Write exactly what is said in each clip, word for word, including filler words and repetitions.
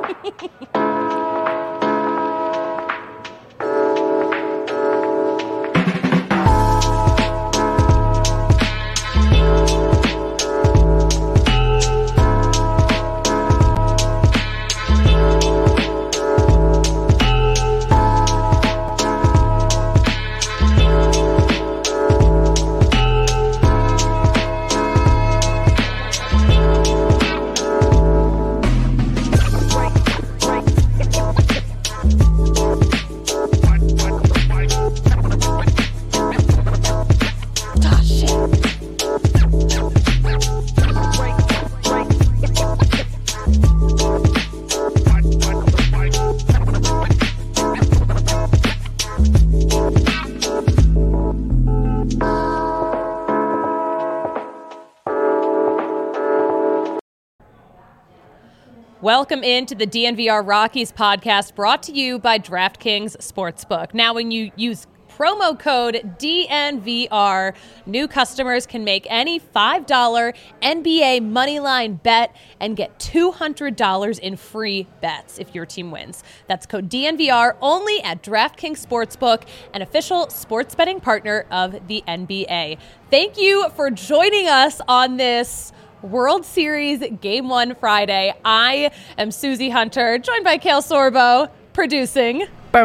Welcome into the D N V R Rockies podcast, brought to you by DraftKings Sportsbook. Now, when you use promo code D N V R, new customers can make any five dollar N B A moneyline bet and get two hundred dollars in free bets if your team wins. That's code D N V R only at DraftKings Sportsbook, an official sports betting partner of the N B A. Thank you for joining us on this World Series Game one Friday. I am Susie Hunter, joined by Kale Sorbo, producing.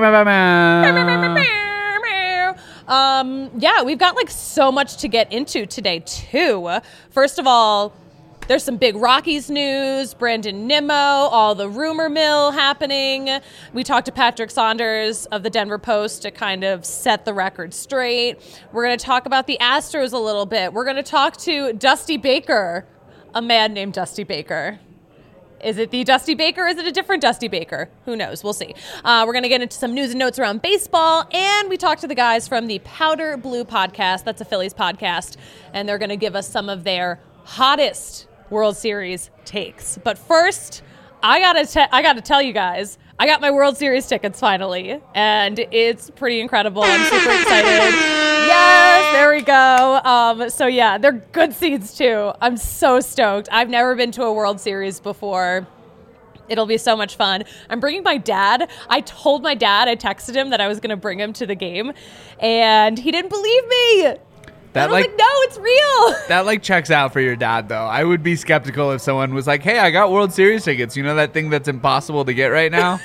Um, yeah, we've got like so much to get into today too. First of all, there's some big Rockies news, Brandon Nimmo, all the rumor mill happening. We talked to Patrick Saunders of the Denver Post to kind of set the record straight. We're going to talk about the Astros a little bit. We're going to talk to Dusty Baker, a man named Dusty Baker. Is it the Dusty Baker or is it a different Dusty Baker? Who knows? We'll see. Uh, we're going to get into some news and notes around baseball, and we talked to the guys from the Powder Blue podcast. That's a Phillies podcast, and they're going to give us some of their hottest World Series takes. But first, I gotta te- I gotta tell you guys, I got my World Series tickets finally, and it's pretty incredible. I'm super excited. Yes, there we go. Um, so yeah, they're good seats too. I'm so stoked. I've never been to a World Series before. It'll be so much fun. I'm bringing my dad. I told my dad, I texted him that I was going to bring him to the game, and he didn't believe me. That, I was like, like, no, it's real. That, like, checks out for your dad, though. I would be skeptical if someone was like, hey, I got World Series tickets. You know that thing that's impossible to get right now?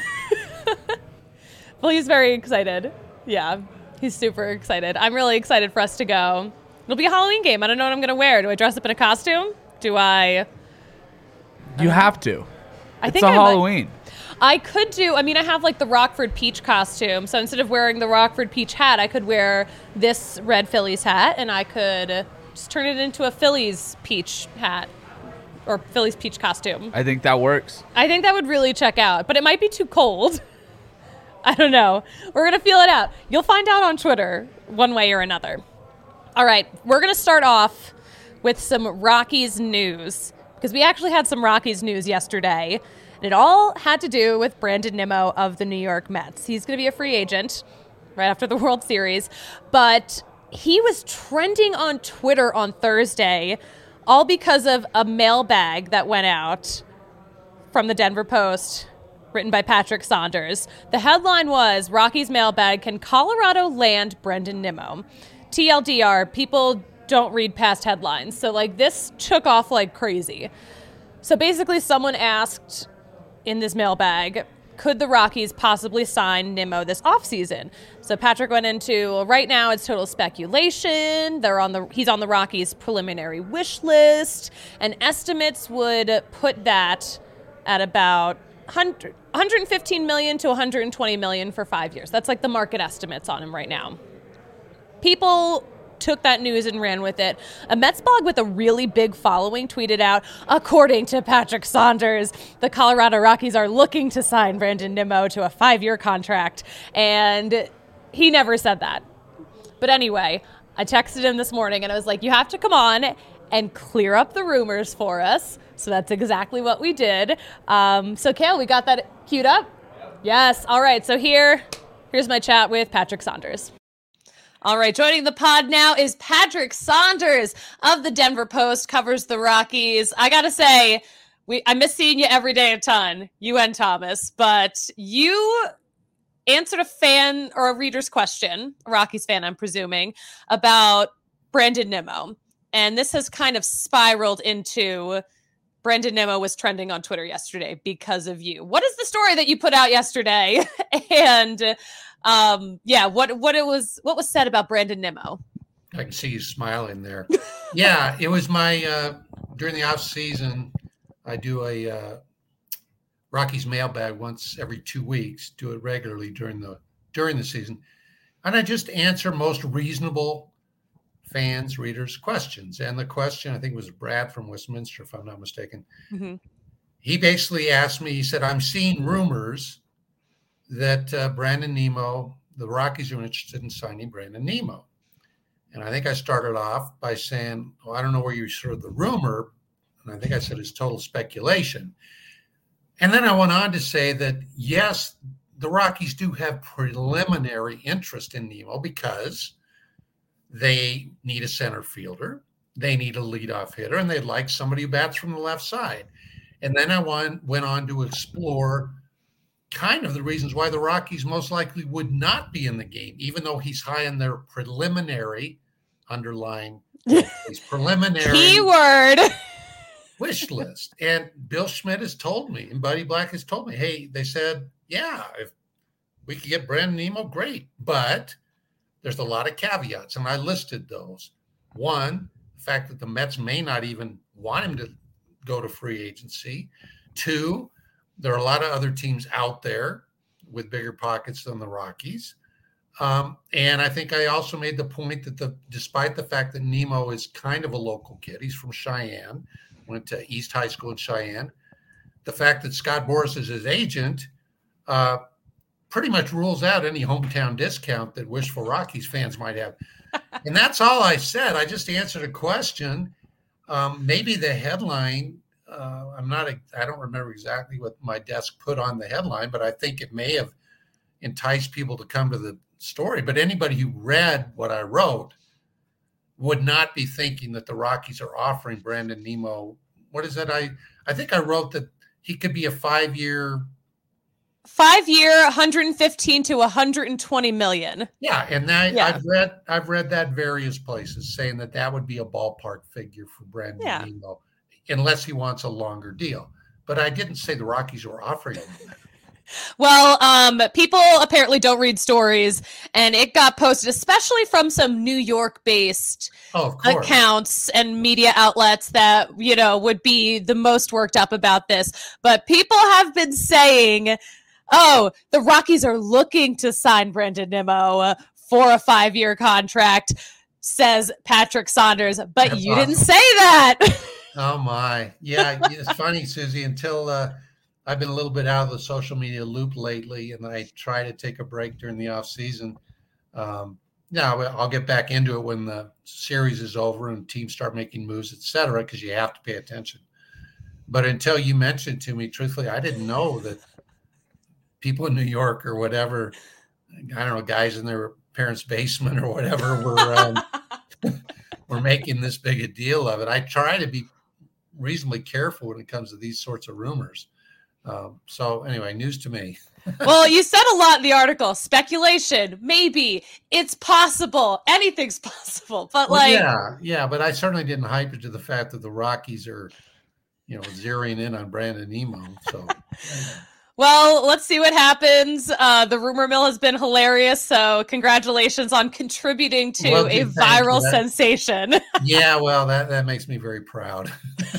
Well, he's very excited. Yeah, he's super excited. I'm really excited for us to go. It'll be a Halloween game. I don't know what I'm going to wear. Do I dress up in a costume? Do I? You uh, have to. I it's think a I Halloween. Might. I could do, I mean, I have like the Rockford Peach costume. So instead of wearing the Rockford Peach hat, I could wear this red Phillies hat, and I could just turn it into a Phillies Peach hat or Phillies Peach costume. I think that works. I think that would really check out, but it might be too cold. I don't know. We're going to feel it out. You'll find out on Twitter one way or another. All right, we're going to start off with some Rockies news, because we actually had some Rockies news yesterday. And it all had to do with Brandon Nimmo of the New York Mets. He's going to be a free agent right after the World Series. But he was trending on Twitter on Thursday, all because of a mailbag that went out from the Denver Post, written by Patrick Saunders. The headline was, Rockies mailbag, can Colorado land Brandon Nimmo? T L D R, people don't read past headlines. So, like, this took off like crazy. So basically someone asked in this mailbag, could the Rockies possibly sign Nimmo this offseason? So Patrick went into, right now it's total speculation. They're on the he's on the Rockies' preliminary wish list, and estimates would put that at about one hundred fifteen million to one hundred twenty million for five years. That's like the market estimates on him right now. People took that news and ran with it. A Mets blog with a really big following tweeted out, according to Patrick Saunders, the Colorado Rockies are looking to sign Brandon Nimmo to a five-year contract. And he never said that. But anyway, I texted him this morning and I was like, you have to come on and clear up the rumors for us. So that's exactly what we did. Um, so Kale, we got that queued up? Yes. All right. So here, here's my chat with Patrick Saunders. All right, joining the pod now is Patrick Saunders of the Denver Post, covers the Rockies. I got to say, we I miss seeing you every day a ton, you and Thomas, but you answered a fan or a reader's question, a Rockies fan, I'm presuming, about Brandon Nimmo. And this has kind of spiraled into Brandon Nimmo was trending on Twitter yesterday because of you. What is the story that you put out yesterday? and um, yeah, what what it was what was said about Brandon Nimmo? I can see you smiling there. Yeah, it was my uh, during the off season. I do a uh, Rockies mailbag once every two weeks. Do it regularly during the during the season, and I just answer most reasonable fans, readers' questions. And the question, I think, was Brad from Westminster, if I'm not mistaken. Mm-hmm. He basically asked me. He said, "I'm seeing rumors that uh, Brandon Nimmo, the Rockies are interested in signing Brandon Nimmo." And I think I started off by saying, well, I don't know where you heard the rumor. And I think I said it's total speculation. And then I went on to say that, yes, the Rockies do have preliminary interest in Nimmo because they need a center fielder. They need a leadoff hitter, and they'd like somebody who bats from the left side. And then I went, went on to explore kind of the reasons why the Rockies most likely would not be in the game, even though he's high in their preliminary, underline, his preliminary keyword wish list. And Bill Schmidt has told me, and Buddy Black has told me, hey, they said, yeah, if we could get Brandon Nimmo, great. But there's a lot of caveats, and I listed those. One, the fact that the Mets may not even want him to go to free agency. Two, there are a lot of other teams out there with bigger pockets than the Rockies. Um, and I think I also made the point that the despite the fact that Nimmo is kind of a local kid, he's from Cheyenne, went to East High School in Cheyenne, the fact that Scott Boras is his agent uh, pretty much rules out any hometown discount that wishful Rockies fans might have. And that's all I said. I just answered a question. Um, maybe the headline, Uh, I'm not, a, I don't remember exactly what my desk put on the headline, but I think it may have enticed people to come to the story. But anybody who read what I wrote would not be thinking that the Rockies are offering Brandon Nimmo. What is that? I, I think I wrote that he could be a five-year. Five-year, one hundred fifteen to one hundred twenty million. Yeah, and that, yeah. I've read, I've read that various places saying that that would be a ballpark figure for Brandon yeah. Nimmo, unless he wants a longer deal. But I didn't say the Rockies were offering him that. Well, um, people apparently don't read stories, and it got posted, especially from some New York-based oh, accounts and media outlets that, you know, would be the most worked up about this. But people have been saying, oh, the Rockies are looking to sign Brandon Nimmo for a five-year contract, says Patrick Saunders. But That's you awesome. didn't say that. Oh, my. Yeah, it's funny, Susie, until uh, I've been a little bit out of the social media loop lately, and I try to take a break during the off season. Um, now, I'll get back into it when the series is over and teams start making moves, et cetera, because you have to pay attention. But until you mentioned to me, truthfully, I didn't know that people in New York or whatever, I don't know, guys in their parents' basement or whatever were um, were making this big a deal of it. I try to be reasonably careful when it comes to these sorts of rumors. Um, so anyway, news to me. Well, you said a lot in the article. Speculation, maybe, it's possible, anything's possible. But well, like, yeah, yeah, but I certainly didn't hype it to the fact that the Rockies are, you know, zeroing in on Brandon Nimmo. So. Well, let's see what happens. Uh, the rumor mill has been hilarious, so congratulations on contributing to well, a viral sensation. Yeah, well, that, that makes me very proud.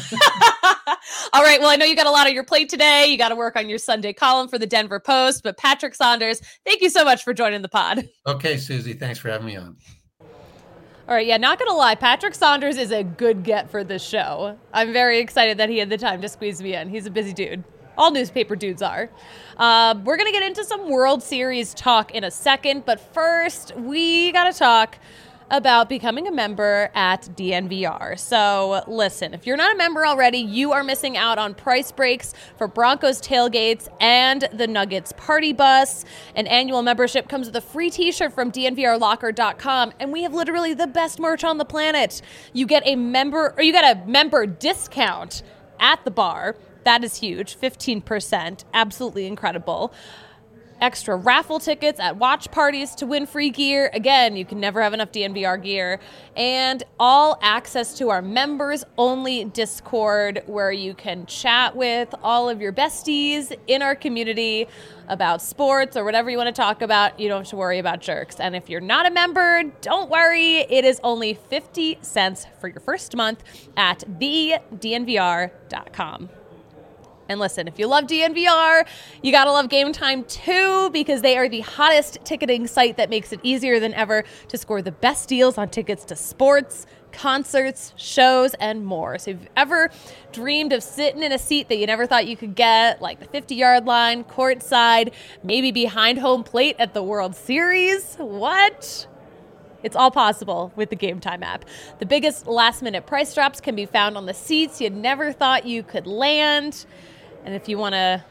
All right, well, I know you got a lot on your plate today. You got to work on your Sunday column for the Denver Post, but Patrick Saunders, thank you so much for joining the pod. Okay, Susie, thanks for having me on. All right, yeah, not going to lie, Patrick Saunders is a good get for this show. I'm very excited that he had the time to squeeze me in. He's a busy dude. All newspaper dudes are. Uh, we're going to get into some World Series talk in a second, but first, we got to talk about becoming a member at D N V R. So listen, if you're not a member already, you are missing out on price breaks for Broncos tailgates and the Nuggets party bus. An annual membership comes with a free t-shirt from D N V R locker dot com, and we have literally the best merch on the planet. You get a member, or you get a member discount at the bar, That is huge. fifteen percent. Absolutely incredible. Extra raffle tickets at watch parties to win free gear. Again, you can never have enough D N V R gear. And all access to our members-only Discord, where you can chat with all of your besties in our community about sports or whatever you want to talk about. You don't have to worry about jerks. And if you're not a member, don't worry. It is only fifty cents for your first month at the D N V R dot com. And listen, if you love D N V R, you gotta love Game Time too, because they are the hottest ticketing site that makes it easier than ever to score the best deals on tickets to sports, concerts, shows, and more. So if you've ever dreamed of sitting in a seat that you never thought you could get, like the fifty-yard line, courtside, maybe behind home plate at the World Series, what? It's all possible with the Game Time app. The biggest last-minute price drops can be found on the seats you never thought you could land. And if you want to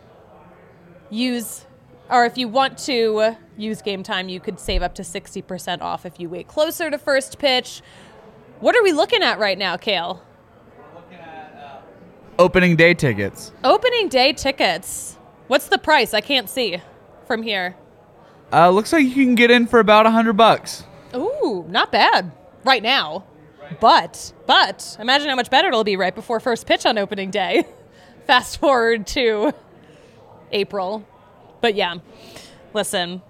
use, or if you want to use Game Time, you could save up to sixty percent off if you wait closer to first pitch. What are we looking at right now, Kale? We're looking at uh, opening day tickets. Opening day tickets. What's the price? I can't see from here. Uh, looks like you can get in for about a hundred bucks. Ooh, not bad right now. Right. But, but imagine how much better it'll be right before first pitch on opening day. Fast forward to April. But yeah, listen,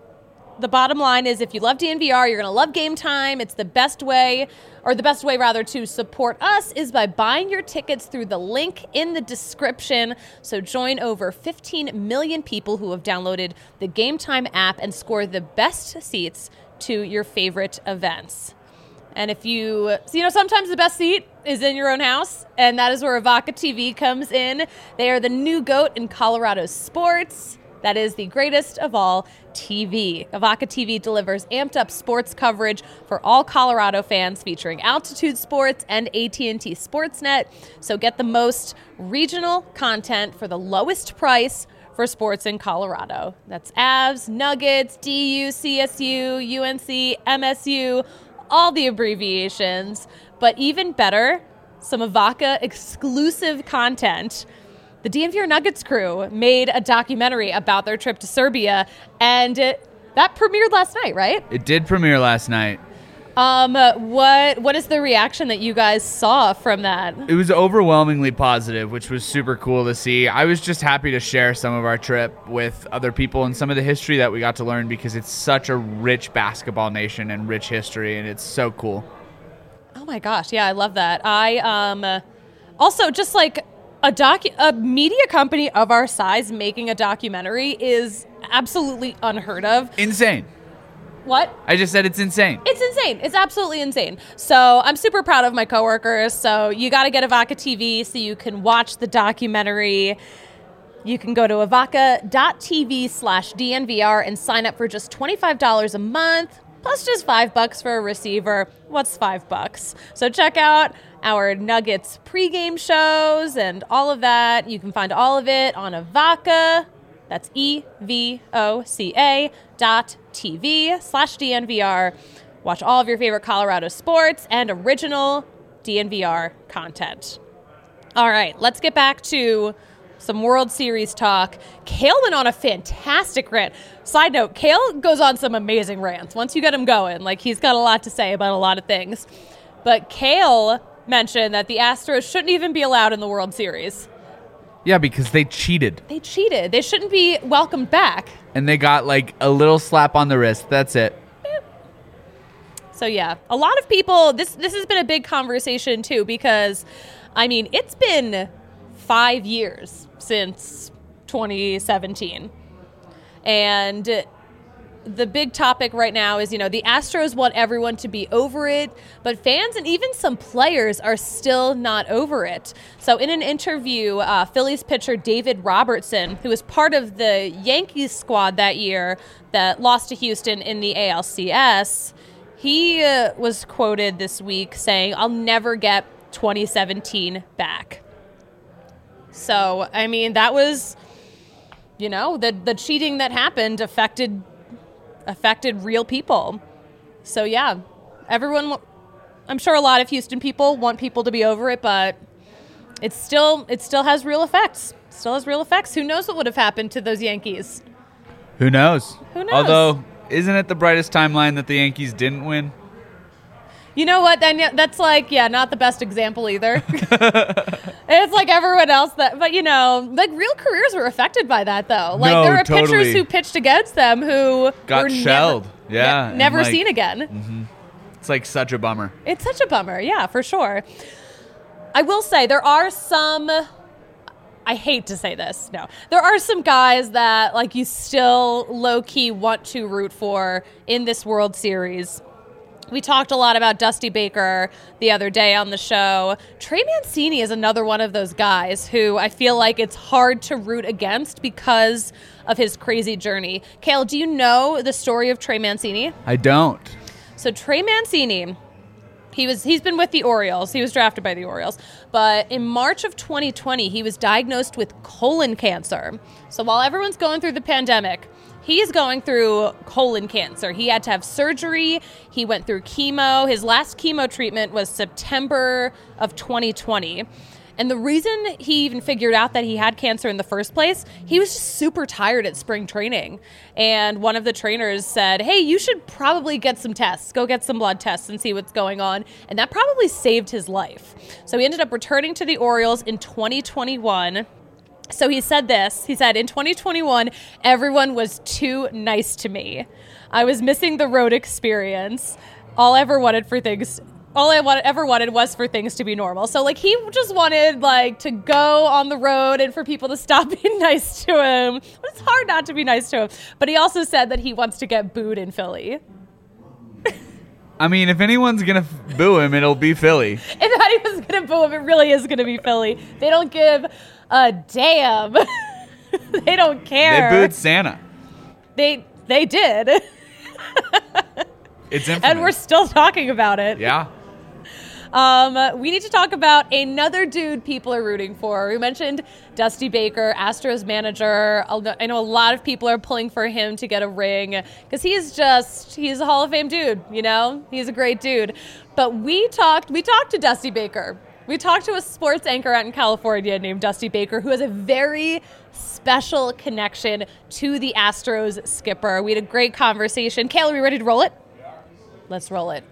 the bottom line is if you love D N V R, you're going to love Game Time. It's the best way, or the best way rather, to support us is by buying your tickets through the link in the description. So join over fifteen million people who have downloaded the Game Time app and score the best seats to your favorite events. And if you, so, you know, sometimes the best seat is in your own house, and that is where Avaca T V comes in. They are the new GOAT in Colorado sports. That is the greatest of all T V. Avaca T V delivers amped up sports coverage for all Colorado fans, featuring Altitude Sports and A T and T Sportsnet. So get the most regional content for the lowest price for sports in Colorado. That's Avs, Nuggets, D U, C S U, U N C, M S U, all the abbreviations, but even better, some Avaca exclusive content. The D N V R Nuggets crew made a documentary about their trip to Serbia, and it, that premiered last night, right? It did premiere last night. Um, what what is the reaction that you guys saw from that? It was overwhelmingly positive, which was super cool to see. I was just happy to share some of our trip with other people and some of the history that we got to learn, because it's such a rich basketball nation and rich history, and it's so cool. Oh my gosh, yeah, I love that. I um also just like a doc a media company of our size making a documentary is absolutely unheard of. Insane. What? I just said it's insane. It's insane. It's absolutely insane. So I'm super proud of my coworkers. So you got to get Avaca T V so you can watch the documentary. You can go to avaca.tv slash DNVR and sign up for just twenty-five dollars a month, plus just five bucks for a receiver. What's five bucks? So check out our Nuggets pregame shows and all of that. You can find all of it on Avaca. That's E V O C A dot TV slash DNVR. Watch all of your favorite Colorado sports and original D N V R content. All right, let's get back to some World Series talk. Kale went on a fantastic rant. Side note, Kale goes on some amazing rants. Once you get him going, like he's got a lot to say about a lot of things. But Kale mentioned that the Astros shouldn't even be allowed in the World Series. Yeah, because they cheated. They cheated. They shouldn't be welcomed back. And they got like a little slap on the wrist. That's it. So yeah, a lot of people, this this has been a big conversation too, because I mean, it's been five years since twenty seventeen. And the big topic right now is, you know, the Astros want everyone to be over it, but fans and even some players are still not over it. So in an interview, uh, Phillies pitcher David Robertson, who was part of the Yankees squad that year that lost to Houston in the A L C S, he uh, was quoted this week saying, "I'll never get twenty seventeen back." So, I mean, that was, you know, the the cheating that happened affected affected real people. So yeah, everyone, I'm sure a lot of Houston people want people to be over it, but it's still it still has real effects. Still has real effects. Who knows what would have happened to those Yankees? Who knows? Who knows? Although, isn't it the brightest timeline that the Yankees didn't win? You know what? Then that's like, yeah, not the best example either. It's like everyone else that, but you know, like real careers were affected by that though. Like No, there are totally. pitchers who pitched against them who Got were shelled. never, Yeah, ne- and never like- seen again. It's like such a bummer. It's such a bummer. Yeah, for sure. I will say there are some, I hate to say this, no. There are some guys that like you still low-key want to root for in this World Series. We talked a lot about Dusty Baker the other day on the show. Trey Mancini is another one of those guys who I feel like it's hard to root against because of his crazy journey. Kale, do you know the story of Trey Mancini? I don't. So Trey Mancini, he was he's been with the Orioles. He was drafted by the Orioles. But in March of twenty twenty, he was diagnosed with colon cancer. So while everyone's going through the pandemic, he is going through colon cancer. He had to have surgery. He went through chemo. His last chemo treatment was September of twenty twenty. And the reason he even figured out that he had cancer in the first place, he was just super tired at spring training. And one of the trainers said, hey, you should probably get some tests. Go get some blood tests and see what's going on. And that probably saved his life. So he ended up returning to the Orioles in twenty twenty-one. So he said this, he said, in twenty twenty-one, everyone was too nice to me. I was missing the road experience. All I ever wanted for things, all I wanted, ever wanted was for things to be normal. So like he just wanted like to go on the road and for people to stop being nice to him. But it's hard not to be nice to him. But he also said that he wants to get booed in Philly. I mean, if anyone's going to boo him, it'll be Philly. If anyone's going to boo him, it really is going to be Philly. They don't give a damn. They don't care. They booed Santa. They they did. It's infamous. And we're still talking about it. Yeah. Um, we need to talk about another dude people are rooting for. We mentioned Dusty Baker, Astros manager. I know a lot of people are pulling for him to get a ring because he's just, he's a Hall of Fame dude, you know? He's a great dude. But we talked, we talked to Dusty Baker. We talked to a sports anchor out in California named Dusty Baker who has a very special connection to the Astros skipper. We had a great conversation. Kale, are we ready to roll it? Let's roll it.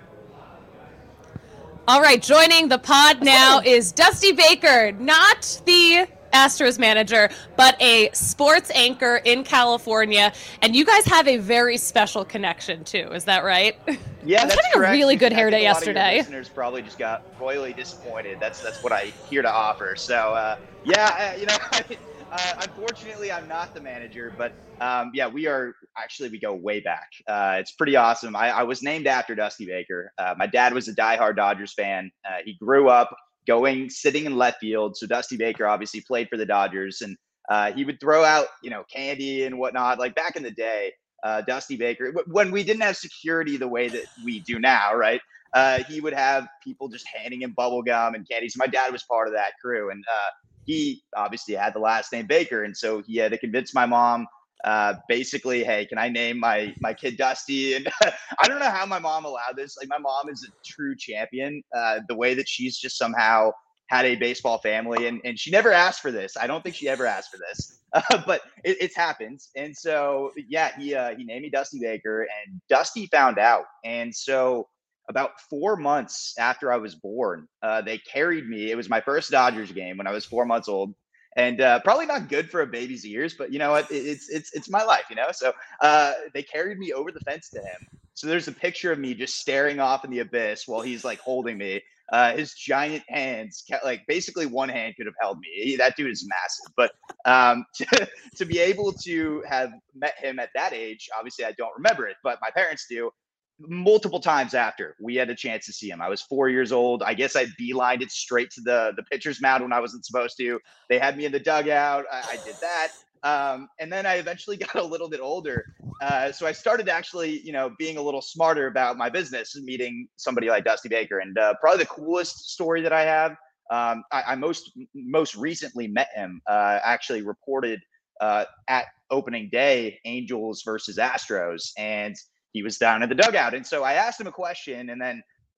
All right, joining the pod now is Dusty Baker, not the Astros manager, but a sports anchor in California. And you guys have a very special connection, too. Is that right? Yeah, I was that's having correct. a really good I hair think day a lot of your yesterday. listeners probably just got royally disappointed. That's that's what I here to offer. So, uh, yeah, uh, you know, uh, unfortunately, I'm not the manager, but um, yeah, we are actually we go way back. Uh, it's pretty awesome. I, I was named after Dusty Baker. Uh, my dad was a diehard Dodgers fan. Uh, he grew up going sitting in left field. So Dusty Baker obviously played for the Dodgers, and uh, he would throw out you know candy and whatnot. Like back in the day. Uh, Dusty Baker, when we didn't have security the way that we do now, right? Uh, he would have people just handing him bubble gum and candy. So my dad was part of that crew, and uh, he obviously had the last name Baker, and so he had to convince my mom, uh, basically, hey, can I name my my kid Dusty? And I don't know how my mom allowed this. Like my mom is a true champion. Uh, the way that she's just somehow had a baseball family, and, and she never asked for this. I don't think she ever asked for this, uh, but it, it's happened. And so, yeah, he uh, he named me Dusty Baker, and Dusty found out. And so about four months after I was born, uh, they carried me. It was my first Dodgers game when I was four months old. And uh, probably not good for a baby's ears, but you know what? It, it's it's it's my life, you know. So uh, they carried me over the fence to him. So there's a picture of me just staring off in the abyss while he's like holding me. Uh, his giant hands, like basically one hand could have held me. He, that dude is massive. But um, to, to be able to have met him at that age, obviously I don't remember it, but my parents do. Multiple times after we had a chance to see him. I was four years old. I guess I beelined it straight to the, the pitcher's mound when I wasn't supposed to. They had me in the dugout. I, I did that. Um, and then I eventually got a little bit older. Uh, so I started actually, you know, being a little smarter about my business and meeting somebody like Dusty Baker. And uh, probably the coolest story that I have, um, I, I most most recently met him, uh, actually reported uh, at opening day, Angels versus Astros. And he was down in the dugout. And so I asked him a question, and then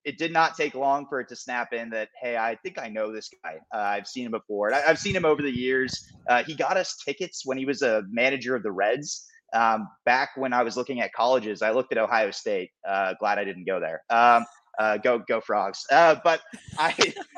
it did not take long for it to snap in that, hey, I think I know this guy. Uh, I've seen him before. And I, I've seen him over the years. Uh, he got us tickets when he was a manager of the Reds. Um, back when I was looking at colleges, I looked at Ohio State. Uh, glad I didn't go there. Um, uh, go, go Frogs. Uh, but I,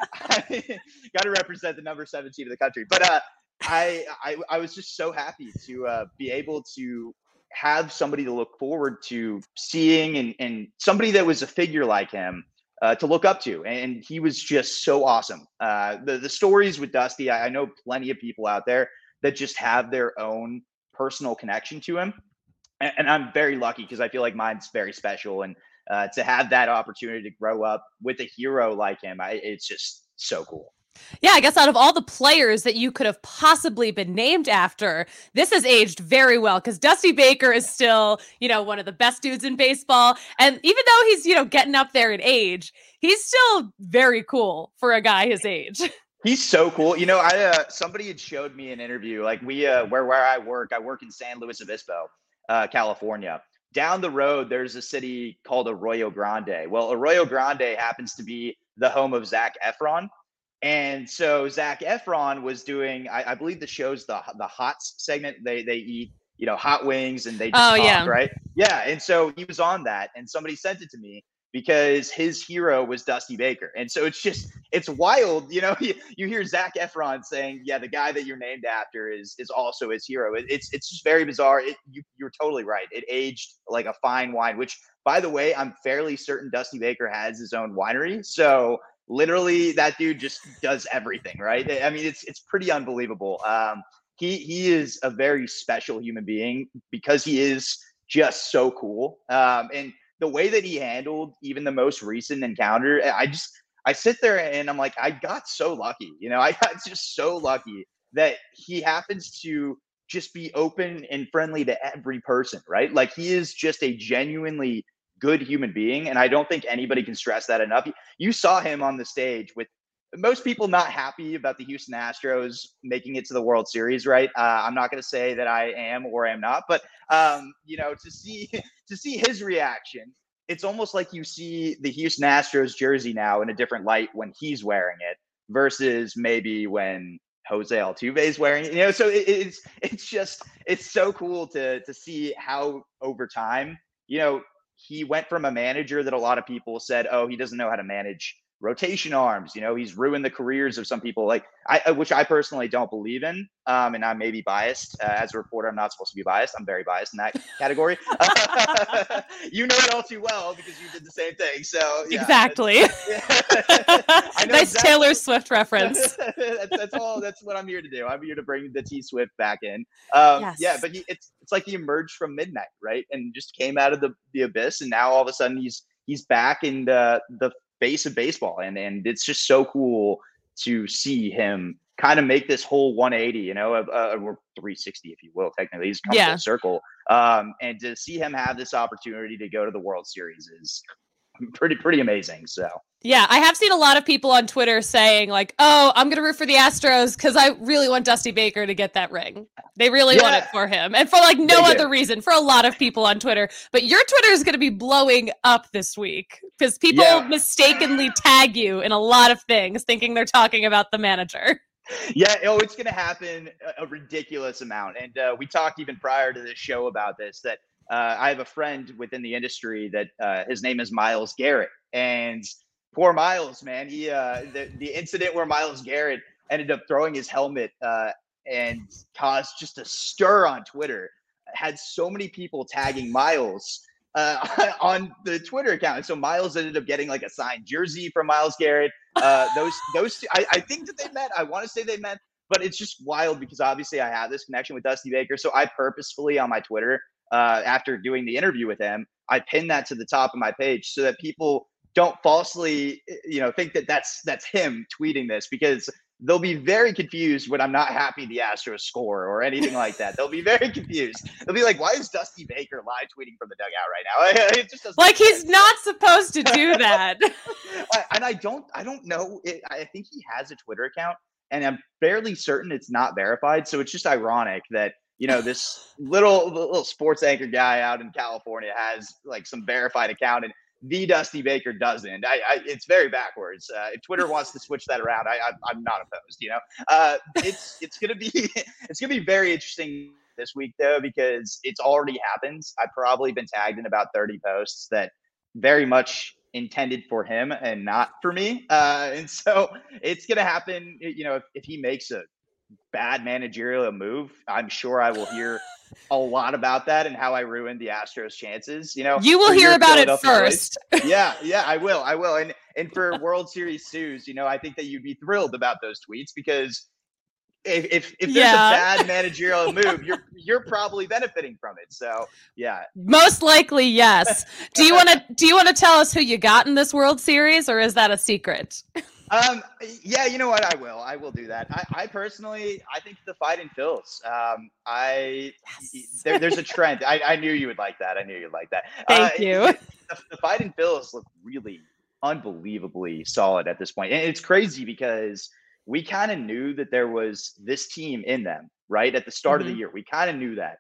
I got to represent the number seven team of the country. But uh, I, I, I was just so happy to uh, be able to have somebody to look forward to seeing, and, and somebody that was a figure like him uh, to look up to. And he was just so awesome. Uh, the, the stories with Dusty, I, I know plenty of people out there that just have their own personal connection to him. And, and I'm very lucky because I feel like mine's very special. And uh, to have that opportunity to grow up with a hero like him, I, it's just so cool. Yeah, I guess out of all the players that you could have possibly been named after, this has aged very well because Dusty Baker is still, you know, one of the best dudes in baseball. And even though he's, you know, getting up there in age, he's still very cool for a guy his age. He's so cool. You know, I uh, somebody had showed me an interview. Like we, uh, where where I work, I work in San Luis Obispo, uh, California. Down the road, there's a city called Arroyo Grande. Well, Arroyo Grande happens to be the home of Zac Efron. And so Zac Efron was doing, I, I believe the show's the the Hots segment. They they eat, you know, hot wings and they just oh, talk, yeah. right? Yeah. And so he was on that, and somebody sent it to me because his hero was Dusty Baker. And so it's just, it's wild. You know, you, you hear Zac Efron saying, yeah, the guy that you're named after is is also his hero. It, it's it's just very bizarre. It, you, you're totally right. It aged like a fine wine, which, by the way, I'm fairly certain Dusty Baker has his own winery. So literally that dude just does everything, right? I mean, it's it's pretty unbelievable. Um, he he is a very special human being because he is just so cool. Um, and the way that he handled even the most recent encounter, I just, I sit there and I'm like, I got so lucky. You know, I got just so lucky that he happens to just be open and friendly to every person, right? Like he is just a genuinely good human being. And I don't think anybody can stress that enough. You saw him on the stage with most people not happy about the Houston Astros making it to the World Series, right? Uh, I'm not going to say that I am or am not, but um, you know, to see to see his reaction, it's almost like you see the Houston Astros jersey now in a different light when he's wearing it versus maybe when Jose Altuve is wearing it. You know, so it, it's it's just it's so cool to to see how over time, you know, he went from a manager that a lot of people said, oh, he doesn't know how to manage rotation arms. You know, he's ruined the careers of some people, like I, which I personally don't believe in. Um, and I may be biased uh, as a reporter. I'm not supposed to be biased. I'm very biased in that category. You know it all too well because you did the same thing. So yeah, exactly. I know nice exactly. Taylor Swift reference. that's, that's all. That's what I'm here to do. I'm here to bring the T Swift back in. Um, yes. Yeah, but he, it's it's like he emerged from midnight, right, and just came out of the, the abyss, and now all of a sudden he's he's back in the the face of baseball, and and it's just so cool to see him kind of make this whole one eighty, you know, uh, or three sixty, if you will. Technically, he's come yeah. full circle, um, and to see him have this opportunity to go to the World Series is pretty pretty amazing. So. Yeah, I have seen a lot of people on Twitter saying like, oh, I'm going to root for the Astros because I really want Dusty Baker to get that ring. They really yeah. want it for him. And for like no They other do. reason, for a lot of people on Twitter. But your Twitter is going to be blowing up this week because people Yeah. mistakenly tag you in a lot of things thinking they're talking about the manager. Yeah, oh, it's going to happen a, a ridiculous amount. And uh, we talked even prior to this show about this, that uh, I have a friend within the industry that uh, his name is Myles Garrett. And poor Myles, man, he uh, the, the incident where Myles Garrett ended up throwing his helmet uh, and caused just a stir on Twitter, had so many people tagging Myles uh, on the Twitter account. And so Myles ended up getting like a signed jersey from Myles Garrett. Uh, those, those, two, I, I think that they met. I want to say they met, but it's just wild because obviously I have this connection with Dusty Baker. So I purposefully on my Twitter, uh, after doing the interview with him, I pinned that to the top of my page so that people don't falsely, you know, think that that's that's him tweeting this, because they'll be very confused when I'm not happy the Astros score or anything like that. They'll be very confused. They'll be like, why is Dusty Baker live tweeting from the dugout right now? It just doesn't like he's sense. not supposed to do that. And I don't, I don't know. It, I think he has a Twitter account, and I'm fairly certain it's not verified. So it's just ironic that, you know, this little little sports anchor guy out in California has like some verified account, and the Dusty Baker doesn't. I, I it's very backwards. Uh, if Twitter wants to switch that around, I, I I'm not opposed. You know, uh, it's it's gonna be it's gonna be very interesting this week though, because it's already happened. I've probably been tagged in about thirty posts that very much intended for him and not for me. Uh, and so it's gonna happen. You know, if, if he makes a bad managerial move, I'm sure I will hear a lot about that and how I ruined the Astros' chances. You know, you will hear about it first. Boys, yeah, yeah, I will, I will. And and for World Series Sues, you know, I think that you'd be thrilled about those tweets because if if, if there's yeah. a bad managerial move, you're you're probably benefiting from it. So yeah, most likely yes. Do you want to do you want to tell us who you got in this World Series, or is that a secret? Um, yeah, you know what? I will. I will do that. I, I personally, I think the Fightin' Phils. Um, I yes. there, there's a trend. I, I knew you would like that. I knew you'd like that. Thank uh, you. It, the, the Fightin' Phils look really unbelievably solid at this point, and it's crazy because we kind of knew that there was this team in them, right? At the start mm-hmm. of the year, we kind of knew that.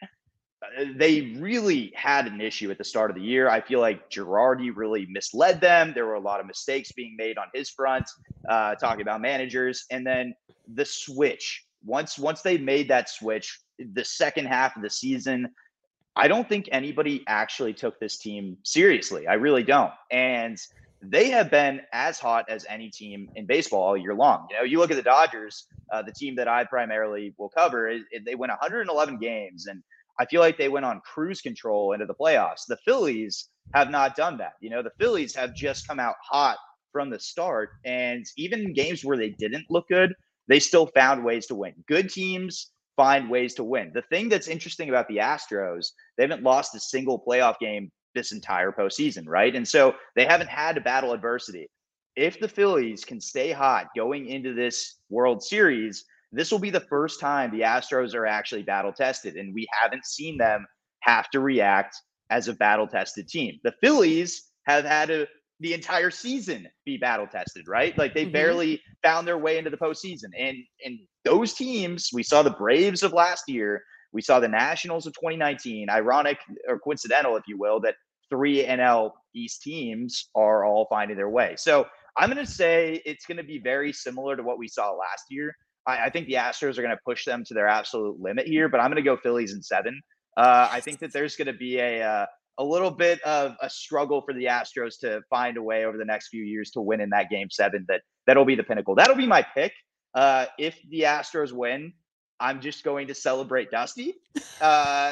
They really had an issue at the start of the year. I feel like Girardi really misled them. There were a lot of mistakes being made on his front, uh, talking about managers. And then the switch, once once they made that switch, the second half of the season, I don't think anybody actually took this team seriously. I really don't. And they have been as hot as any team in baseball all year long. You know, you look at the Dodgers, uh, the team that I primarily will cover, it, it, they win one hundred eleven games, and I feel like they went on cruise control into the playoffs. The Phillies have not done that. You know, the Phillies have just come out hot from the start. And even in games where they didn't look good, they still found ways to win. Good teams find ways to win. The thing that's interesting about the Astros, they haven't lost a single playoff game this entire postseason, right? And so they haven't had to battle adversity. If the Phillies can stay hot going into this World Series, this will be the first time the Astros are actually battle tested, and we haven't seen them have to react as a battle tested team. The Phillies have had to, the entire season be battle tested, right? Like they mm-hmm. barely found their way into the postseason. And and those teams, we saw the Braves of last year, we saw the Nationals of twenty nineteen, ironic or coincidental, if you will, that three N L East teams are all finding their way. So I'm going to say it's going to be very similar to what we saw last year. I think the Astros are going to push them to their absolute limit here, but I'm going to go Phillies in seven. Uh, I think that there's going to be a uh, a little bit of a struggle for the Astros to find a way over the next few years to win in that game seven. That that'll be the pinnacle. That'll be my pick. Uh, if the Astros win, I'm just going to celebrate Dusty. Uh,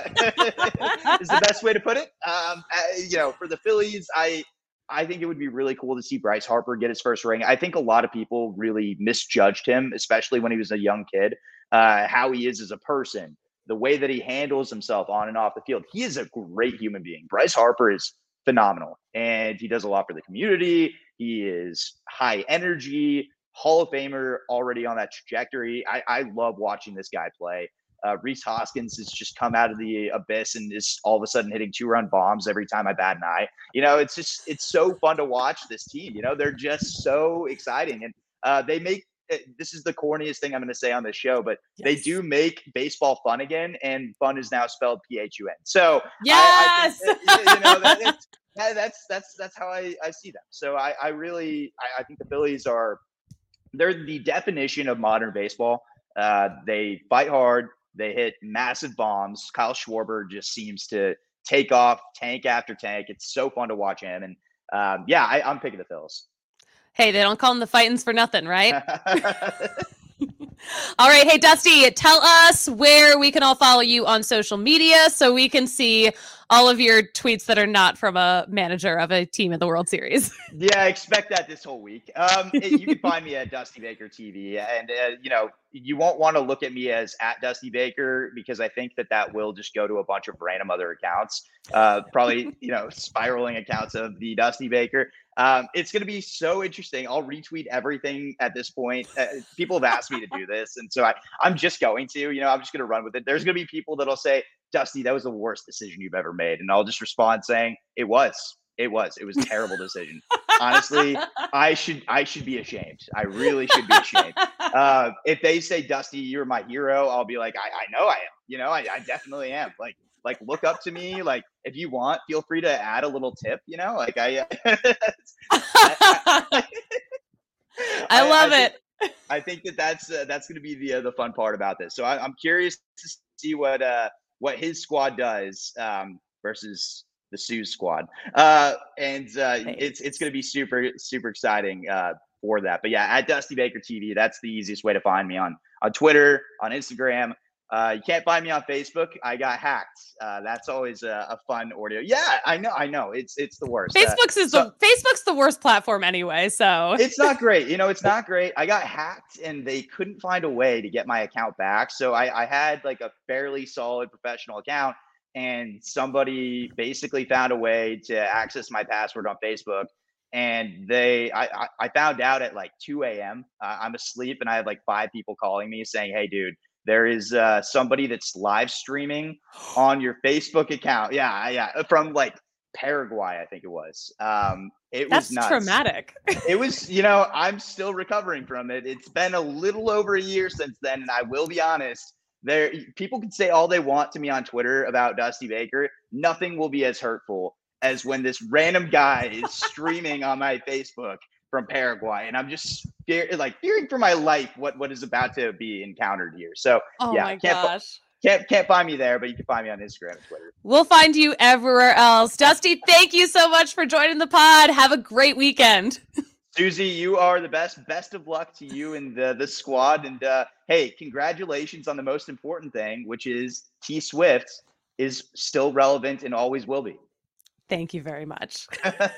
is the best way to put it. Um, uh, you know, for the Phillies, I. I think it would be really cool to see Bryce Harper get his first ring. I think a lot of people really misjudged him, especially when he was a young kid, uh, how he is as a person, the way that he handles himself on and off the field. He is a great human being. Bryce Harper is phenomenal, and he does a lot for the community. He is high energy, Hall of Famer, already on that trajectory. I, I love watching this guy play. Uh, Rhys Hoskins has just come out of the abyss and is all of a sudden hitting two-run bombs every time I bat an eye. You know, it's just it's so fun to watch this team. You know, they're just so exciting, and uh, they make this is the corniest thing I'm going to say on this show, but yes. they do make baseball fun again, and fun is now spelled P H U N. So yes, I, I think, you know, that, it's, that's that's that's how I, I see them. So I, I really I, I think the Phillies are they're the definition of modern baseball. Uh, they fight hard. They hit massive bombs. Kyle Schwarber just seems to take off tank after tank. It's so fun to watch him. And um, yeah, I, I'm picking the Phils. Hey, they don't call them the Fightins for nothing, right? All right. Hey, Dusty, tell us where we can all follow you on social media so we can see all of your tweets that are not from a manager of a team in the World Series. Yeah, expect that this whole week. Um, it, you can find me at Dusty Baker T V, and uh, you know you won't want to look at me as at Dusty Baker because I think that that will just go to a bunch of random other accounts, uh, probably you know spiraling accounts of the Dusty Baker. Um, it's going to be so interesting. I'll retweet everything at this point. Uh, people have asked me to do this, and so I, I'm just going to. You know, I'm just going to run with it. There's going to be people that'll say, Dusty, that was the worst decision you've ever made. And I'll just respond saying, it was. It was. It was a terrible decision. honestly, I should I should be ashamed. I really should be ashamed. Uh, if they say, Dusty, you're my hero, I'll be like, I, I know I am. You know, I, I definitely am. Like, like look up to me. Like, if you want, feel free to add a little tip. You know, like I. I, I, I love I, I it. Think, I think that that's uh, that's going to be the uh, the fun part about this. So I, I'm curious to see what uh what his squad does um, versus the Sue's squad, uh, and uh, it's it's going to be super super exciting uh, for that. But yeah, at Dusty Baker T V, that's the easiest way to find me on on Twitter, on Instagram. Uh, you can't find me on Facebook. I got hacked. Uh, that's always a, a fun ordeal. Yeah, I know. I know. It's it's the worst. Facebook's uh, is so, the Facebook's the worst platform anyway. So it's not great. You know, it's not great. I got hacked and they couldn't find a way to get my account back. So I, I had like a fairly solid professional account, and somebody basically found a way to access my password on Facebook. And they, I, I found out at like two a.m. Uh, I'm asleep, and I had like five people calling me saying, "Hey, dude, there is uh, somebody that's live streaming on your Facebook account." Yeah, yeah, from like Paraguay, I think it was. Um, it That's was nuts. traumatic. It was, you know, I'm still recovering from it. It's been a little over a year since then, and I will be honest. There, people can say all they want to me on Twitter about Dusty Baker. Nothing will be as hurtful as when this random guy is streaming on my Facebook from Paraguay, and I'm just fear, like fearing for my life what what is about to be encountered here. So oh yeah, my can't, gosh. can't can't find me there, but you can find me on Instagram and Twitter. We'll find you everywhere else. Dusty, thank you so much for joining the pod. Have a great weekend. Susie, you are the best. Best of luck to you and the the squad. And uh, hey, congratulations on the most important thing, which is T Swift is still relevant and always will be. Thank you very much.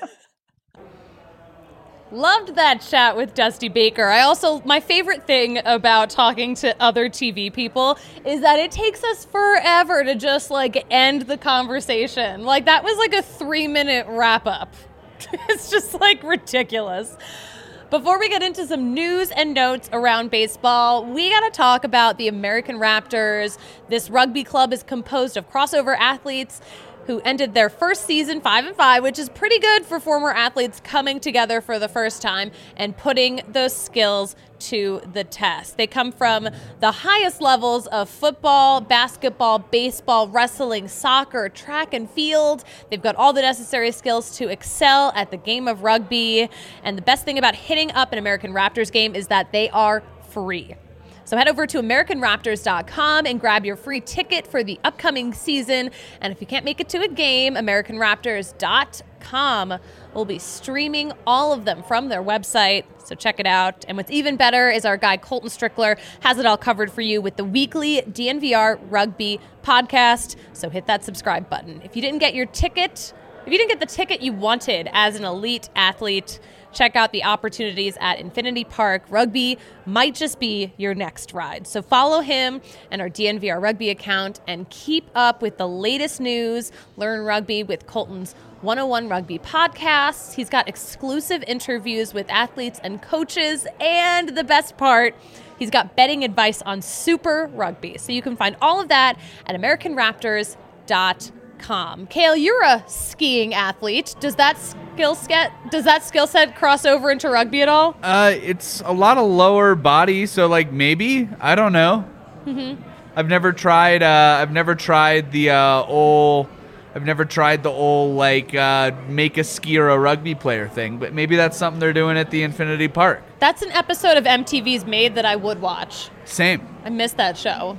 Loved that chat with Dusty Baker. I also, my favorite thing about talking to other T V people is that it takes us forever to just like end the conversation. Like that was like a three minute wrap up. It's just like ridiculous. Before we get into some news and notes around baseball, we got to talk about the American Raptors. This rugby club is composed of crossover athletes who ended their first season five and five, which is pretty good for former athletes coming together for the first time and putting those skills to the test. They come from the highest levels of football, basketball, baseball, wrestling, soccer, track and field. They've got all the necessary skills to excel at the game of rugby. And the best thing about hitting up an American Raptors game is that they are free. So head over to American Raptors dot com and grab your free ticket for the upcoming season. And if you can't make it to a game, American Raptors dot com will be streaming all of them from their website. So check it out. And what's even better is our guy Colton Strickler has it all covered for you with the weekly D N V R Rugby podcast. So hit that subscribe button. If you didn't get your ticket, if you didn't get the ticket you wanted as an elite athlete, check out the opportunities at Infinity Park. Rugby might just be your next ride. So follow him and our D N V R Rugby account and keep up with the latest news. Learn rugby with Colton's one oh one Rugby podcast. He's got exclusive interviews with athletes and coaches. And the best part, he's got betting advice on Super Rugby. So you can find all of that at American Raptors dot com. Kale, you're a skiing athlete. Does that skill set does that skill set cross over into rugby at all? Uh, it's a lot of lower body, so like maybe I don't know. Mm-hmm. I've never tried. Uh, I've never tried the uh, old. I've never tried the old like uh, make a skier a rugby player thing, but maybe that's something they're doing at the Infinity Park. That's an episode of M T V's Made that I would watch. Same. I missed that show.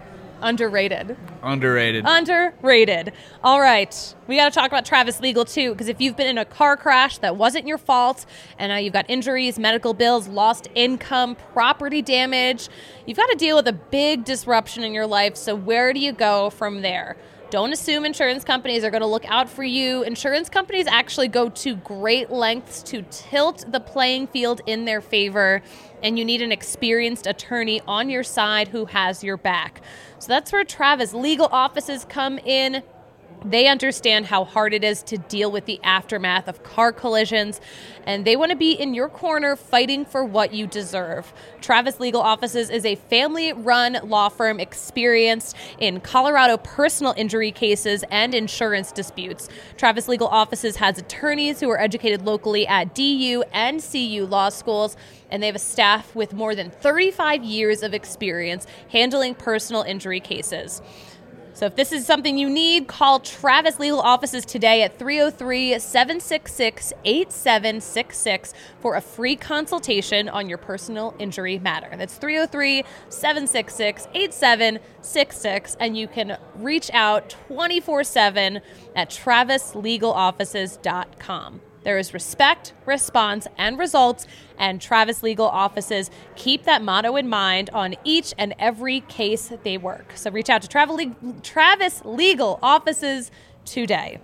Underrated. Underrated. Underrated. All right. We got to talk about Travis Legal, too, because if you've been in a car crash that wasn't your fault, and now you've got injuries, medical bills, lost income, property damage, you've got to deal with a big disruption in your life. So where do you go from there? Don't assume insurance companies are going to look out for you. Insurance companies actually go to great lengths to tilt the playing field in their favor, and you need an experienced attorney on your side who has your back. So that's where Travis Legal offices come in. They understand how hard it is to deal with the aftermath of car collisions, and they want to be in your corner fighting for what you deserve. Travis Legal Offices is a family-run law firm experienced in Colorado personal injury cases and insurance disputes. Travis Legal Offices has attorneys who are educated locally at D U and C U law schools, and they have a staff with more than thirty-five years of experience handling personal injury cases. So if this is something you need, call Travis Legal Offices today at three oh three, seven six six, eight seven six six for a free consultation on your personal injury matter. That's three oh three, seven six six, eight seven six six, and you can reach out twenty-four seven at travis legal offices dot com. There is respect, response, and results, and Travis Legal Offices keep that motto in mind on each and every case they work. So reach out to Travis Legal Offices today.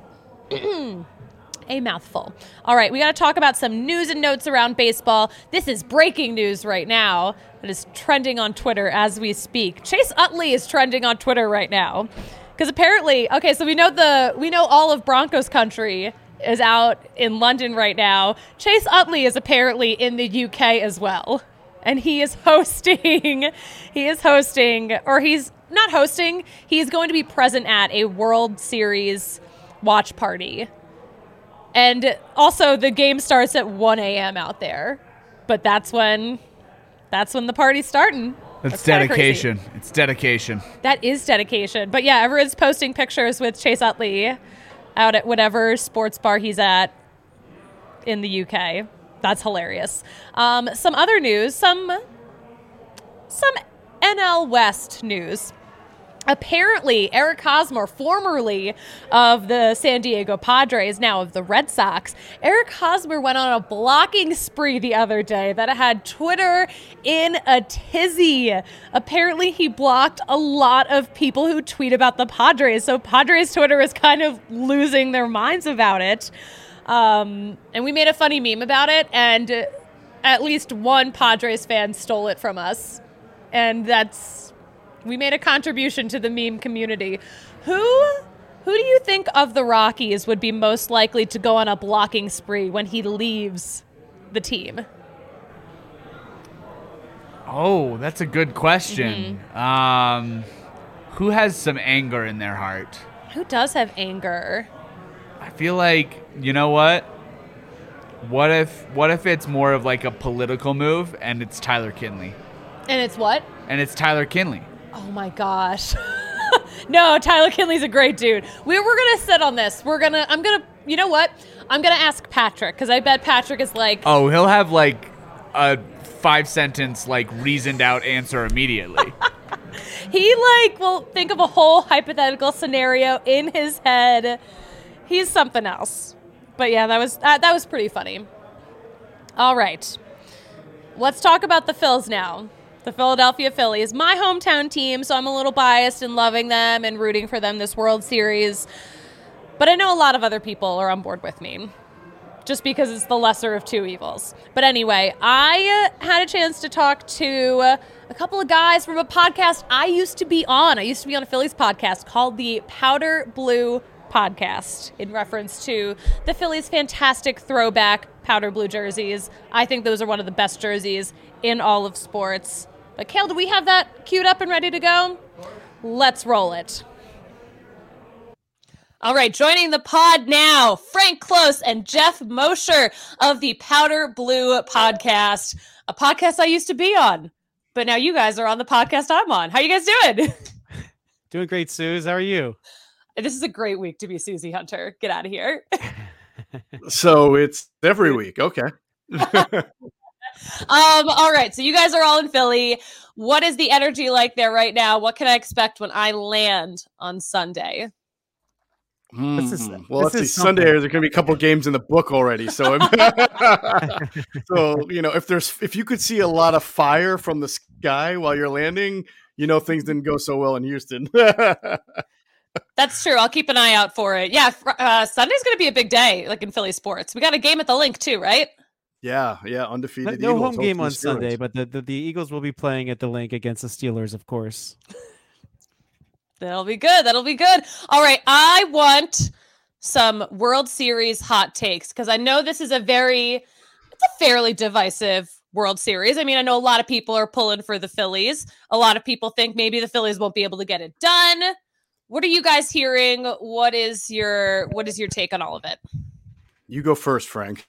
A mouthful. All right, we got to talk about some news and notes around baseball. This is breaking news right now. It is trending on Twitter as we speak. Chase Utley is trending on Twitter right now because apparently, okay, so we know the we know all of Broncos country is out in London right now. Chase Utley is apparently in the U K as well. And he is hosting, he is hosting, or he's not hosting, he's going to be present at a World Series watch party. And also the game starts at one a.m. out there. But that's when, that's when the party's starting. That's, that's dedication. It's dedication. That is dedication. But yeah, everyone's posting pictures with Chase Utley out at whatever sports bar he's at in the U K. That's hilarious. Um, some other news, some some N L West news. Apparently, Eric Hosmer, formerly of the San Diego Padres, now of the Red Sox, Eric Hosmer went on a blocking spree the other day that had Twitter in a tizzy. Apparently, he blocked a lot of people who tweet about the Padres, so Padres Twitter is kind of losing their minds about it. Um, and we made a funny meme about it, and at least one Padres fan stole it from us. And that's... We made a contribution to the meme community. Who who do you think of the Rockies would be most likely to go on a blocking spree when he leaves the team? Oh, that's a good question. Mm-hmm. Um, who has some anger in their heart? Who does have anger? I feel like, you know what? What if what if it's more of like a political move and it's Tyler Kinley? And it's what? And it's Tyler Kinley. Oh my gosh. No, Tyler Kinley's a great dude. We we're going to sit on this. We're going to, I'm going to, you know what? I'm going to ask Patrick because I bet Patrick is like. Oh, he'll have like a five sentence, like reasoned out answer immediately. He like will think of a whole hypothetical scenario in his head. He's something else. But yeah, that was, uh, that was pretty funny. All right. Let's talk about the Phils now. The Philadelphia Phillies, my hometown team, so I'm a little biased in loving them and rooting for them this World Series. But I know a lot of other people are on board with me, just because it's the lesser of two evils. But anyway, I had a chance to talk to a couple of guys from a podcast I used to be on. I used to be on a Phillies podcast called the Powder Blue Podcast, in reference to the Phillies' fantastic throwback powder blue jerseys. I think those are one of the best jerseys in all of sports. But Kale, do we have that queued up and ready to go? Let's roll it. All right, joining the pod now, Frank Close and Jeff Mosher of the Powder Blue Podcast, a podcast I used to be on. But now you guys are on the podcast I'm on. How you guys doing? Doing great, Suze. How are you? This is a great week to be Susie Hunter. Get out of here. So it's every week. Okay. Um, all right, so you guys are all in Philly. What is the energy like there right now? What can I expect when I land on Sunday? Mm. This is, well, this let's see. Sunday, there's going to be a couple games in the book already. So, so you know, if there's if you could see a lot of fire from the sky while you're landing, you know things didn't go so well in Houston. That's true. I'll keep an eye out for it. Yeah, uh, Sunday's going to be a big day, like in Philly sports. We got a game at the Link too, right? Yeah, yeah, undefeated. No, no Eagles, home game on Sunday, but the, the the Eagles will be playing at the Link against the Steelers, of course. That'll be good. That'll be good. All right. I want some World Series hot takes because I know this is a very, it's a fairly divisive World Series. I mean, I know a lot of people are pulling for the Phillies. A lot of people think maybe the Phillies won't be able to get it done. What are you guys hearing? What is your what is your take on all of it? You go first, Frank.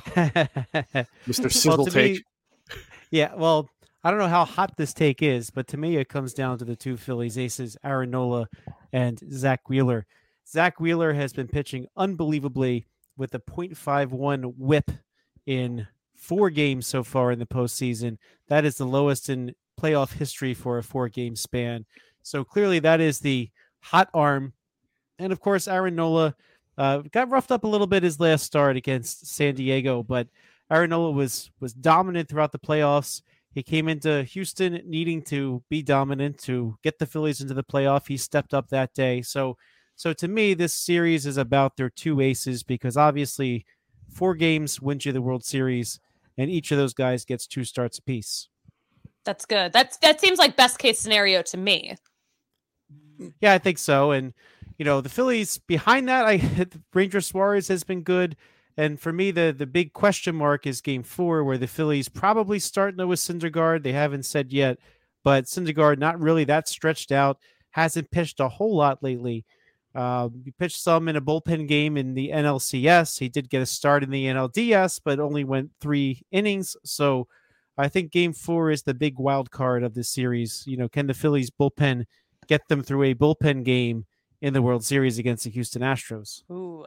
Mister Sizzle Well, to take. me- yeah, well, I don't know how hot this take is, but to me, it comes down to the two Phillies aces, Aaron Nola and Zach Wheeler. Zach Wheeler has been pitching unbelievably with a point five one whip in four games so far in the postseason. That is the lowest in playoff history for a four-game span. So clearly that is the hot arm. And, of course, Aaron Nola uh, got roughed up a little bit his last start against San Diego, but Aaron Nola was, was dominant throughout the playoffs. He came into Houston needing to be dominant to get the Phillies into the playoff. He stepped up that day. So, so to me, this series is about their two aces because obviously four games wins you the World Series, and each of those guys gets two starts apiece. That's good. That's that seems like best case scenario to me. Yeah, I think so. And, you know, the Phillies behind that, I Ranger Suarez has been good. And for me, the, the big question mark is game four, where the Phillies probably start Noah Syndergaard. They haven't said yet, but Syndergaard not really that stretched out, hasn't pitched a whole lot lately. Uh, he pitched some in a bullpen game in the N L C S. He did get a start in the N L D S, but only went three innings. So I think game four is the big wild card of this series. You know, can the Phillies bullpen get them through a bullpen game in the World Series against the Houston Astros? Ooh.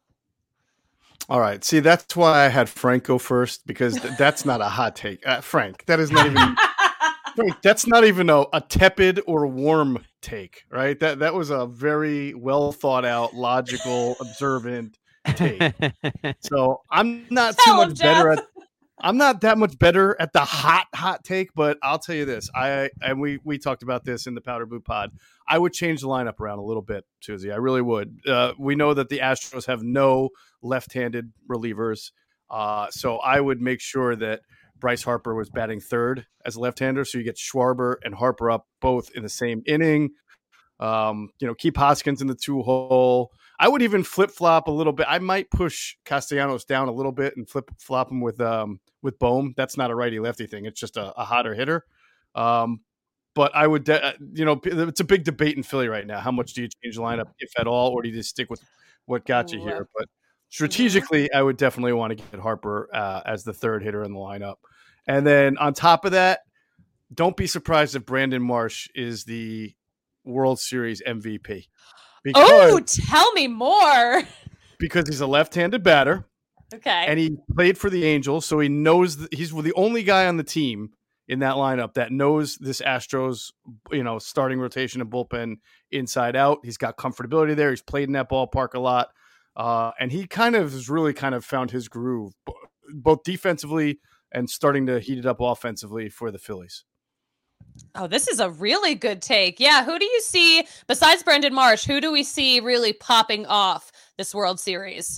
All right. See, that's why I had Frank go first because th- that's not a hot take. Uh, Frank, that is not even Frank, that's not even a, a tepid or warm take, right? That that was a very well thought out, logical, observant take. So I'm not too Tell him, much better Jeff. at I'm not that much better at the hot, hot take, but I'll tell you this. I and we we talked about this in the Powder Blue Pod. I would change the lineup around a little bit, Susie. I really would. Uh, we know that the Astros have no left-handed relievers, uh, so I would make sure that Bryce Harper was batting third as a left-hander, so you get Schwarber and Harper up both in the same inning. Um, you know, keep Hoskins in the two-hole. I would even flip-flop a little bit. I might push Castellanos down a little bit and flip-flop him with um, with Bohm. That's not a righty-lefty thing. It's just a, a hotter hitter. Um, but I would, de- you know, it's a big debate in Philly right now. How much do you change the lineup, if at all, or do you just stick with what got you here? But strategically, I would definitely want to get Harper uh, as the third hitter in the lineup. And then on top of that, don't be surprised if Brandon Marsh is the World Series M V P. Because, Oh, tell me more. because he's a left-handed batter. Okay. And he played for the Angels, so he knows th- he's the only guy on the team in that lineup that knows this Astros, you know, starting rotation and bullpen inside out. He's got comfortability there. He's played in that ballpark a lot. Uh, and he kind of has really kind of found his groove, b- both defensively and starting to heat it up offensively for the Phillies. Oh, this is a really good take. Yeah. Who do you see besides Brendan Marsh? Who do we see really popping off this World Series?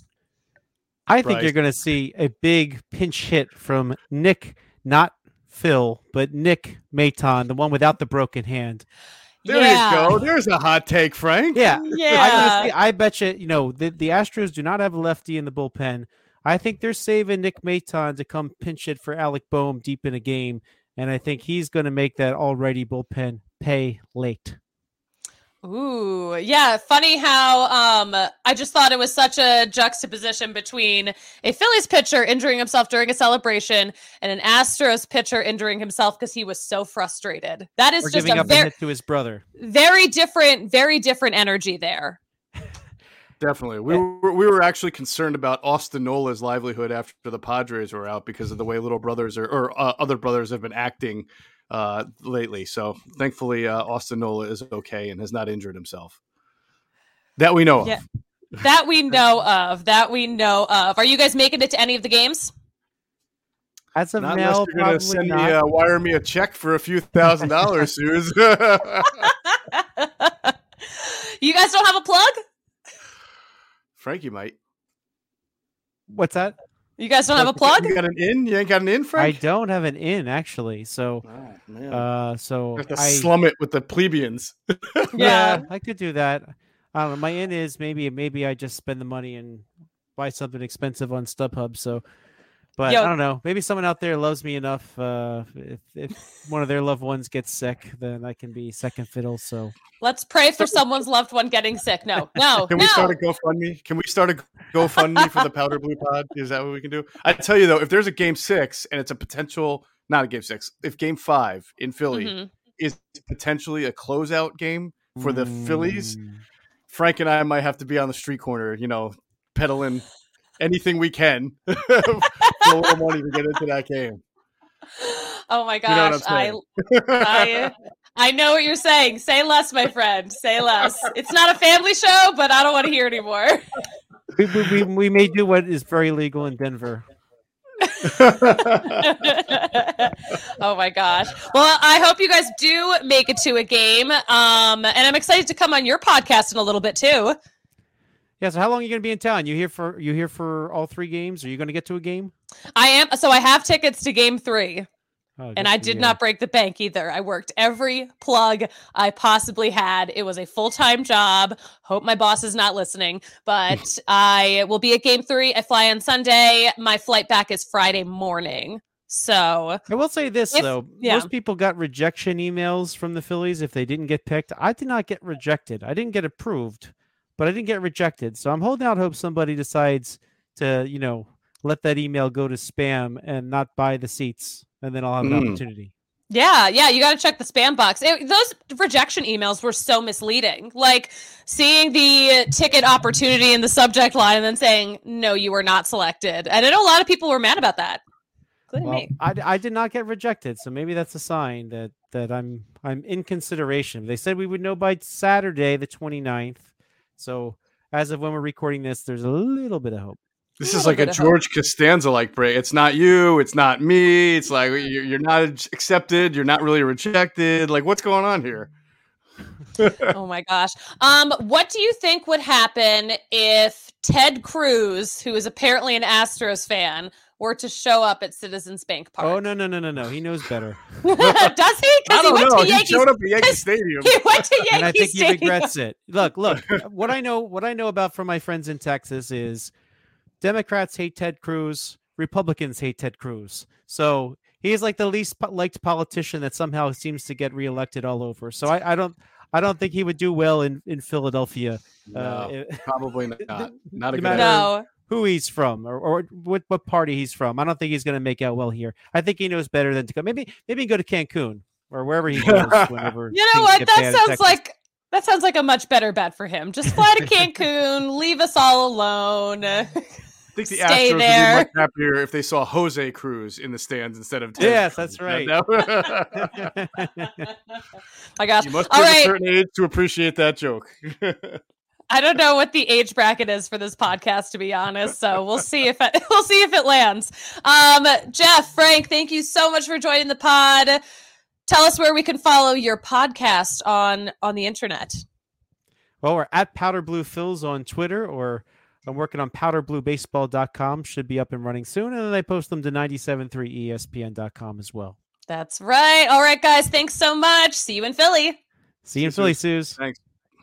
I think Bryce. you're going to see a big pinch hit from Nick, not Phil, but Nick Maton, the one without the broken hand. There yeah. you go. There's a hot take, Frank. Yeah. Yeah. I, honestly, I bet you, you know, the, the Astros do not have a lefty in the bullpen. I think they're saving Nick Maton to come pinch hit for Alec Boehm deep in a game. And I think he's going to make that already bullpen pay late. Ooh, yeah. Funny how um, I just thought it was such a juxtaposition between a Phillies pitcher injuring himself during a celebration and an Astros pitcher injuring himself because he was so frustrated. That is Or just giving a up a very, hit to his brother. very different, very different energy there. Definitely. We were we were actually concerned about Austin Nola's livelihood after the Padres were out because of the way little brothers are, or uh, other brothers have been acting uh, lately. So thankfully, uh, Austin Nola is okay and has not injured himself. That we know Yeah. of. That we know of. That we know of. Are you guys making it to any of the games? As of Not now, unless you're going probably to send not. me, uh, wire me a check for a few thousand dollars, Suze. You guys don't have a plug? Frankie might. What's that? You guys don't have a plug? You got an in? You ain't got an in, I Frank? don't have an in actually. So, Oh, man. uh, so You have to I slum it with the plebeians. yeah, Yeah. I could do that. I don't know. My in is maybe maybe I just spend the money and buy something expensive on StubHub. So, but Yo. I don't know. Maybe someone out there loves me enough. Uh, if if one of their loved ones gets sick, then I can be second fiddle. So Let's pray for someone's loved one getting sick. No, no, Can no. we start a GoFundMe? Can we start a GoFundMe for the Powder Blue Pod? Is that what we can do? I tell you though, if there's a game six and it's a potential, not a game six, if game five in Philly Mhm. is potentially a closeout game for the Phillies, Mm. Frank and I might have to be on the street corner, you know, peddling anything we can for a little money to get into that game. Oh my You know gosh. what I'm I, I I know what you're saying. Say less, my friend. Say less. It's not a family show, but I don't want to hear anymore. we, we, we, we may do what is very legal in Denver. Oh my gosh. Well, I hope you guys do make it to a game. Um, and I'm excited to come on your podcast in a little bit too. Yeah. So how long are you going to be in town? You here for you here for all three games? Are you going to get to a game? I am. So I have tickets to game three. Oh, And good I for did you. not break the bank either. I worked every plug I possibly had. It was a full-time job. Hope my boss is not listening, but I will be at game three. I fly on Sunday. My flight back is Friday morning. So I will say this If- though, yeah. most people got rejection emails from the Phillies if they didn't get picked. I did not get rejected. I didn't get approved, but I didn't get rejected. So I'm holding out hope somebody decides to, you know, let that email go to spam and not buy the seats, and then I'll have an Mm. opportunity. yeah, yeah, you got to check the spam box. It, those rejection incoming were so misleading. Like seeing the ticket opportunity in the subject line and then saying, no, you were not selected. And I know a lot of people were mad about that, including Well, me. I, I did not get rejected, so maybe that's a sign that that I'm I'm in consideration. They said we would know by Saturday the twenty-ninth. So as of when we're recording this, there's a little bit of hope. This A is little like a bit of hope. George Costanza like break. It's not you. It's not me. It's like you're, you're not accepted. You're not really rejected. Like, what's going on here? Oh my gosh. Um, what do you think would happen if Ted Cruz, who is apparently an Astros fan, were to show up at Citizens Bank Park? Oh no no no no no! He knows better, Does he? I Because he don't went know. to He Yankees. showed up at Yankee Stadium. He went to Yankee and I think Stadium. he regrets it. Look look, what I know what I know about from my friends in Texas is Democrats hate Ted Cruz, Republicans hate Ted Cruz. So he's like the least po- liked politician that somehow seems to get reelected all over. So I, I don't I don't think he would do well in in Philadelphia. No, Uh, probably not. Not a No good matter- idea. No. who he's from or, or what, what party he's from. I don't think he's going to make out well here. I think he knows better than to go. Maybe maybe go to Cancun or wherever he goes. Whenever You know things what? get That bad in sounds Texas. like that sounds like a much better bet for him. Just fly to Cancun, leave us all alone. I think the Stay Astros there. would be much happier if they saw Jose Cruz in the stands instead of Ted Yes, Cruz. that's right. My gosh. You must be All of a right. certain age to appreciate that joke. I don't know what the age bracket is for this podcast, to be honest. So we'll see if it, we'll see if it lands. Um, Jeff, Frank, thank you so much for joining the pod. Tell us where we can follow your podcast on on the internet. Well, we're at Powder Blue Phils on Twitter, or I'm working on powder blue baseball dot com. Should be up and running soon. And then I post them to ninety-seven point three E S P N dot com as well. That's right. All right, guys. Thanks so much. See you in Philly. See you in See Philly, you. Suze. Thanks.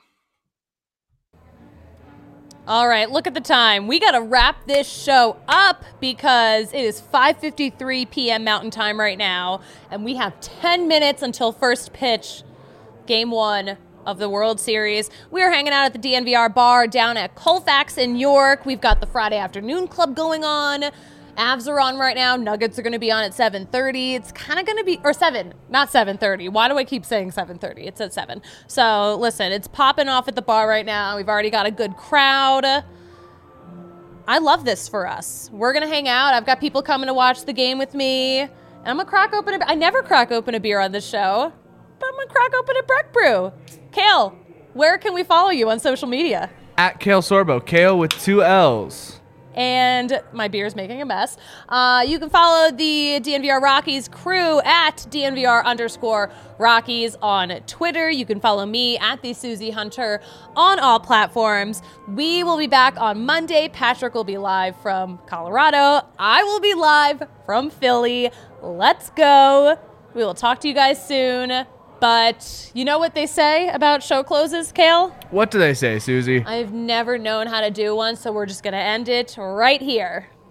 All right, look at the time. We got to wrap this show up because it is five fifty-three p.m. Mountain Time right now, and we have ten minutes until first pitch, game one of the World Series. We are hanging out at the D N V R bar down at Colfax in York. We've got the Friday Afternoon Club going on. Avs are on right now. Nuggets are going to be on at seven thirty. It's kind of going to be, or seven, not seven thirty. Why do I keep saying seven thirty? It's at seven. So listen, it's popping off at the bar right now. We've already got a good crowd. I love this for us. We're going to hang out. I've got people coming to watch the game with me. And I'm going to crack open a, I never crack open a beer on this show, but I'm going to crack open a Breck Brew. Kale, where can we follow you on social media? At Kale Sorbo, Kale with two L's. And my beer's making a mess. Uh, you can follow the D N V R Rockies crew at D N V R underscore Rockies on Twitter. You can follow me at the Susie Hunter on all platforms. We will be back on Monday. Patrick will be live from Colorado. I will be live from Philly. Let's go. We will talk to you guys soon. But you know what they say about show closes, Kale? What do they say, Susie? I've never known how to do one, so we're just going to end it right here.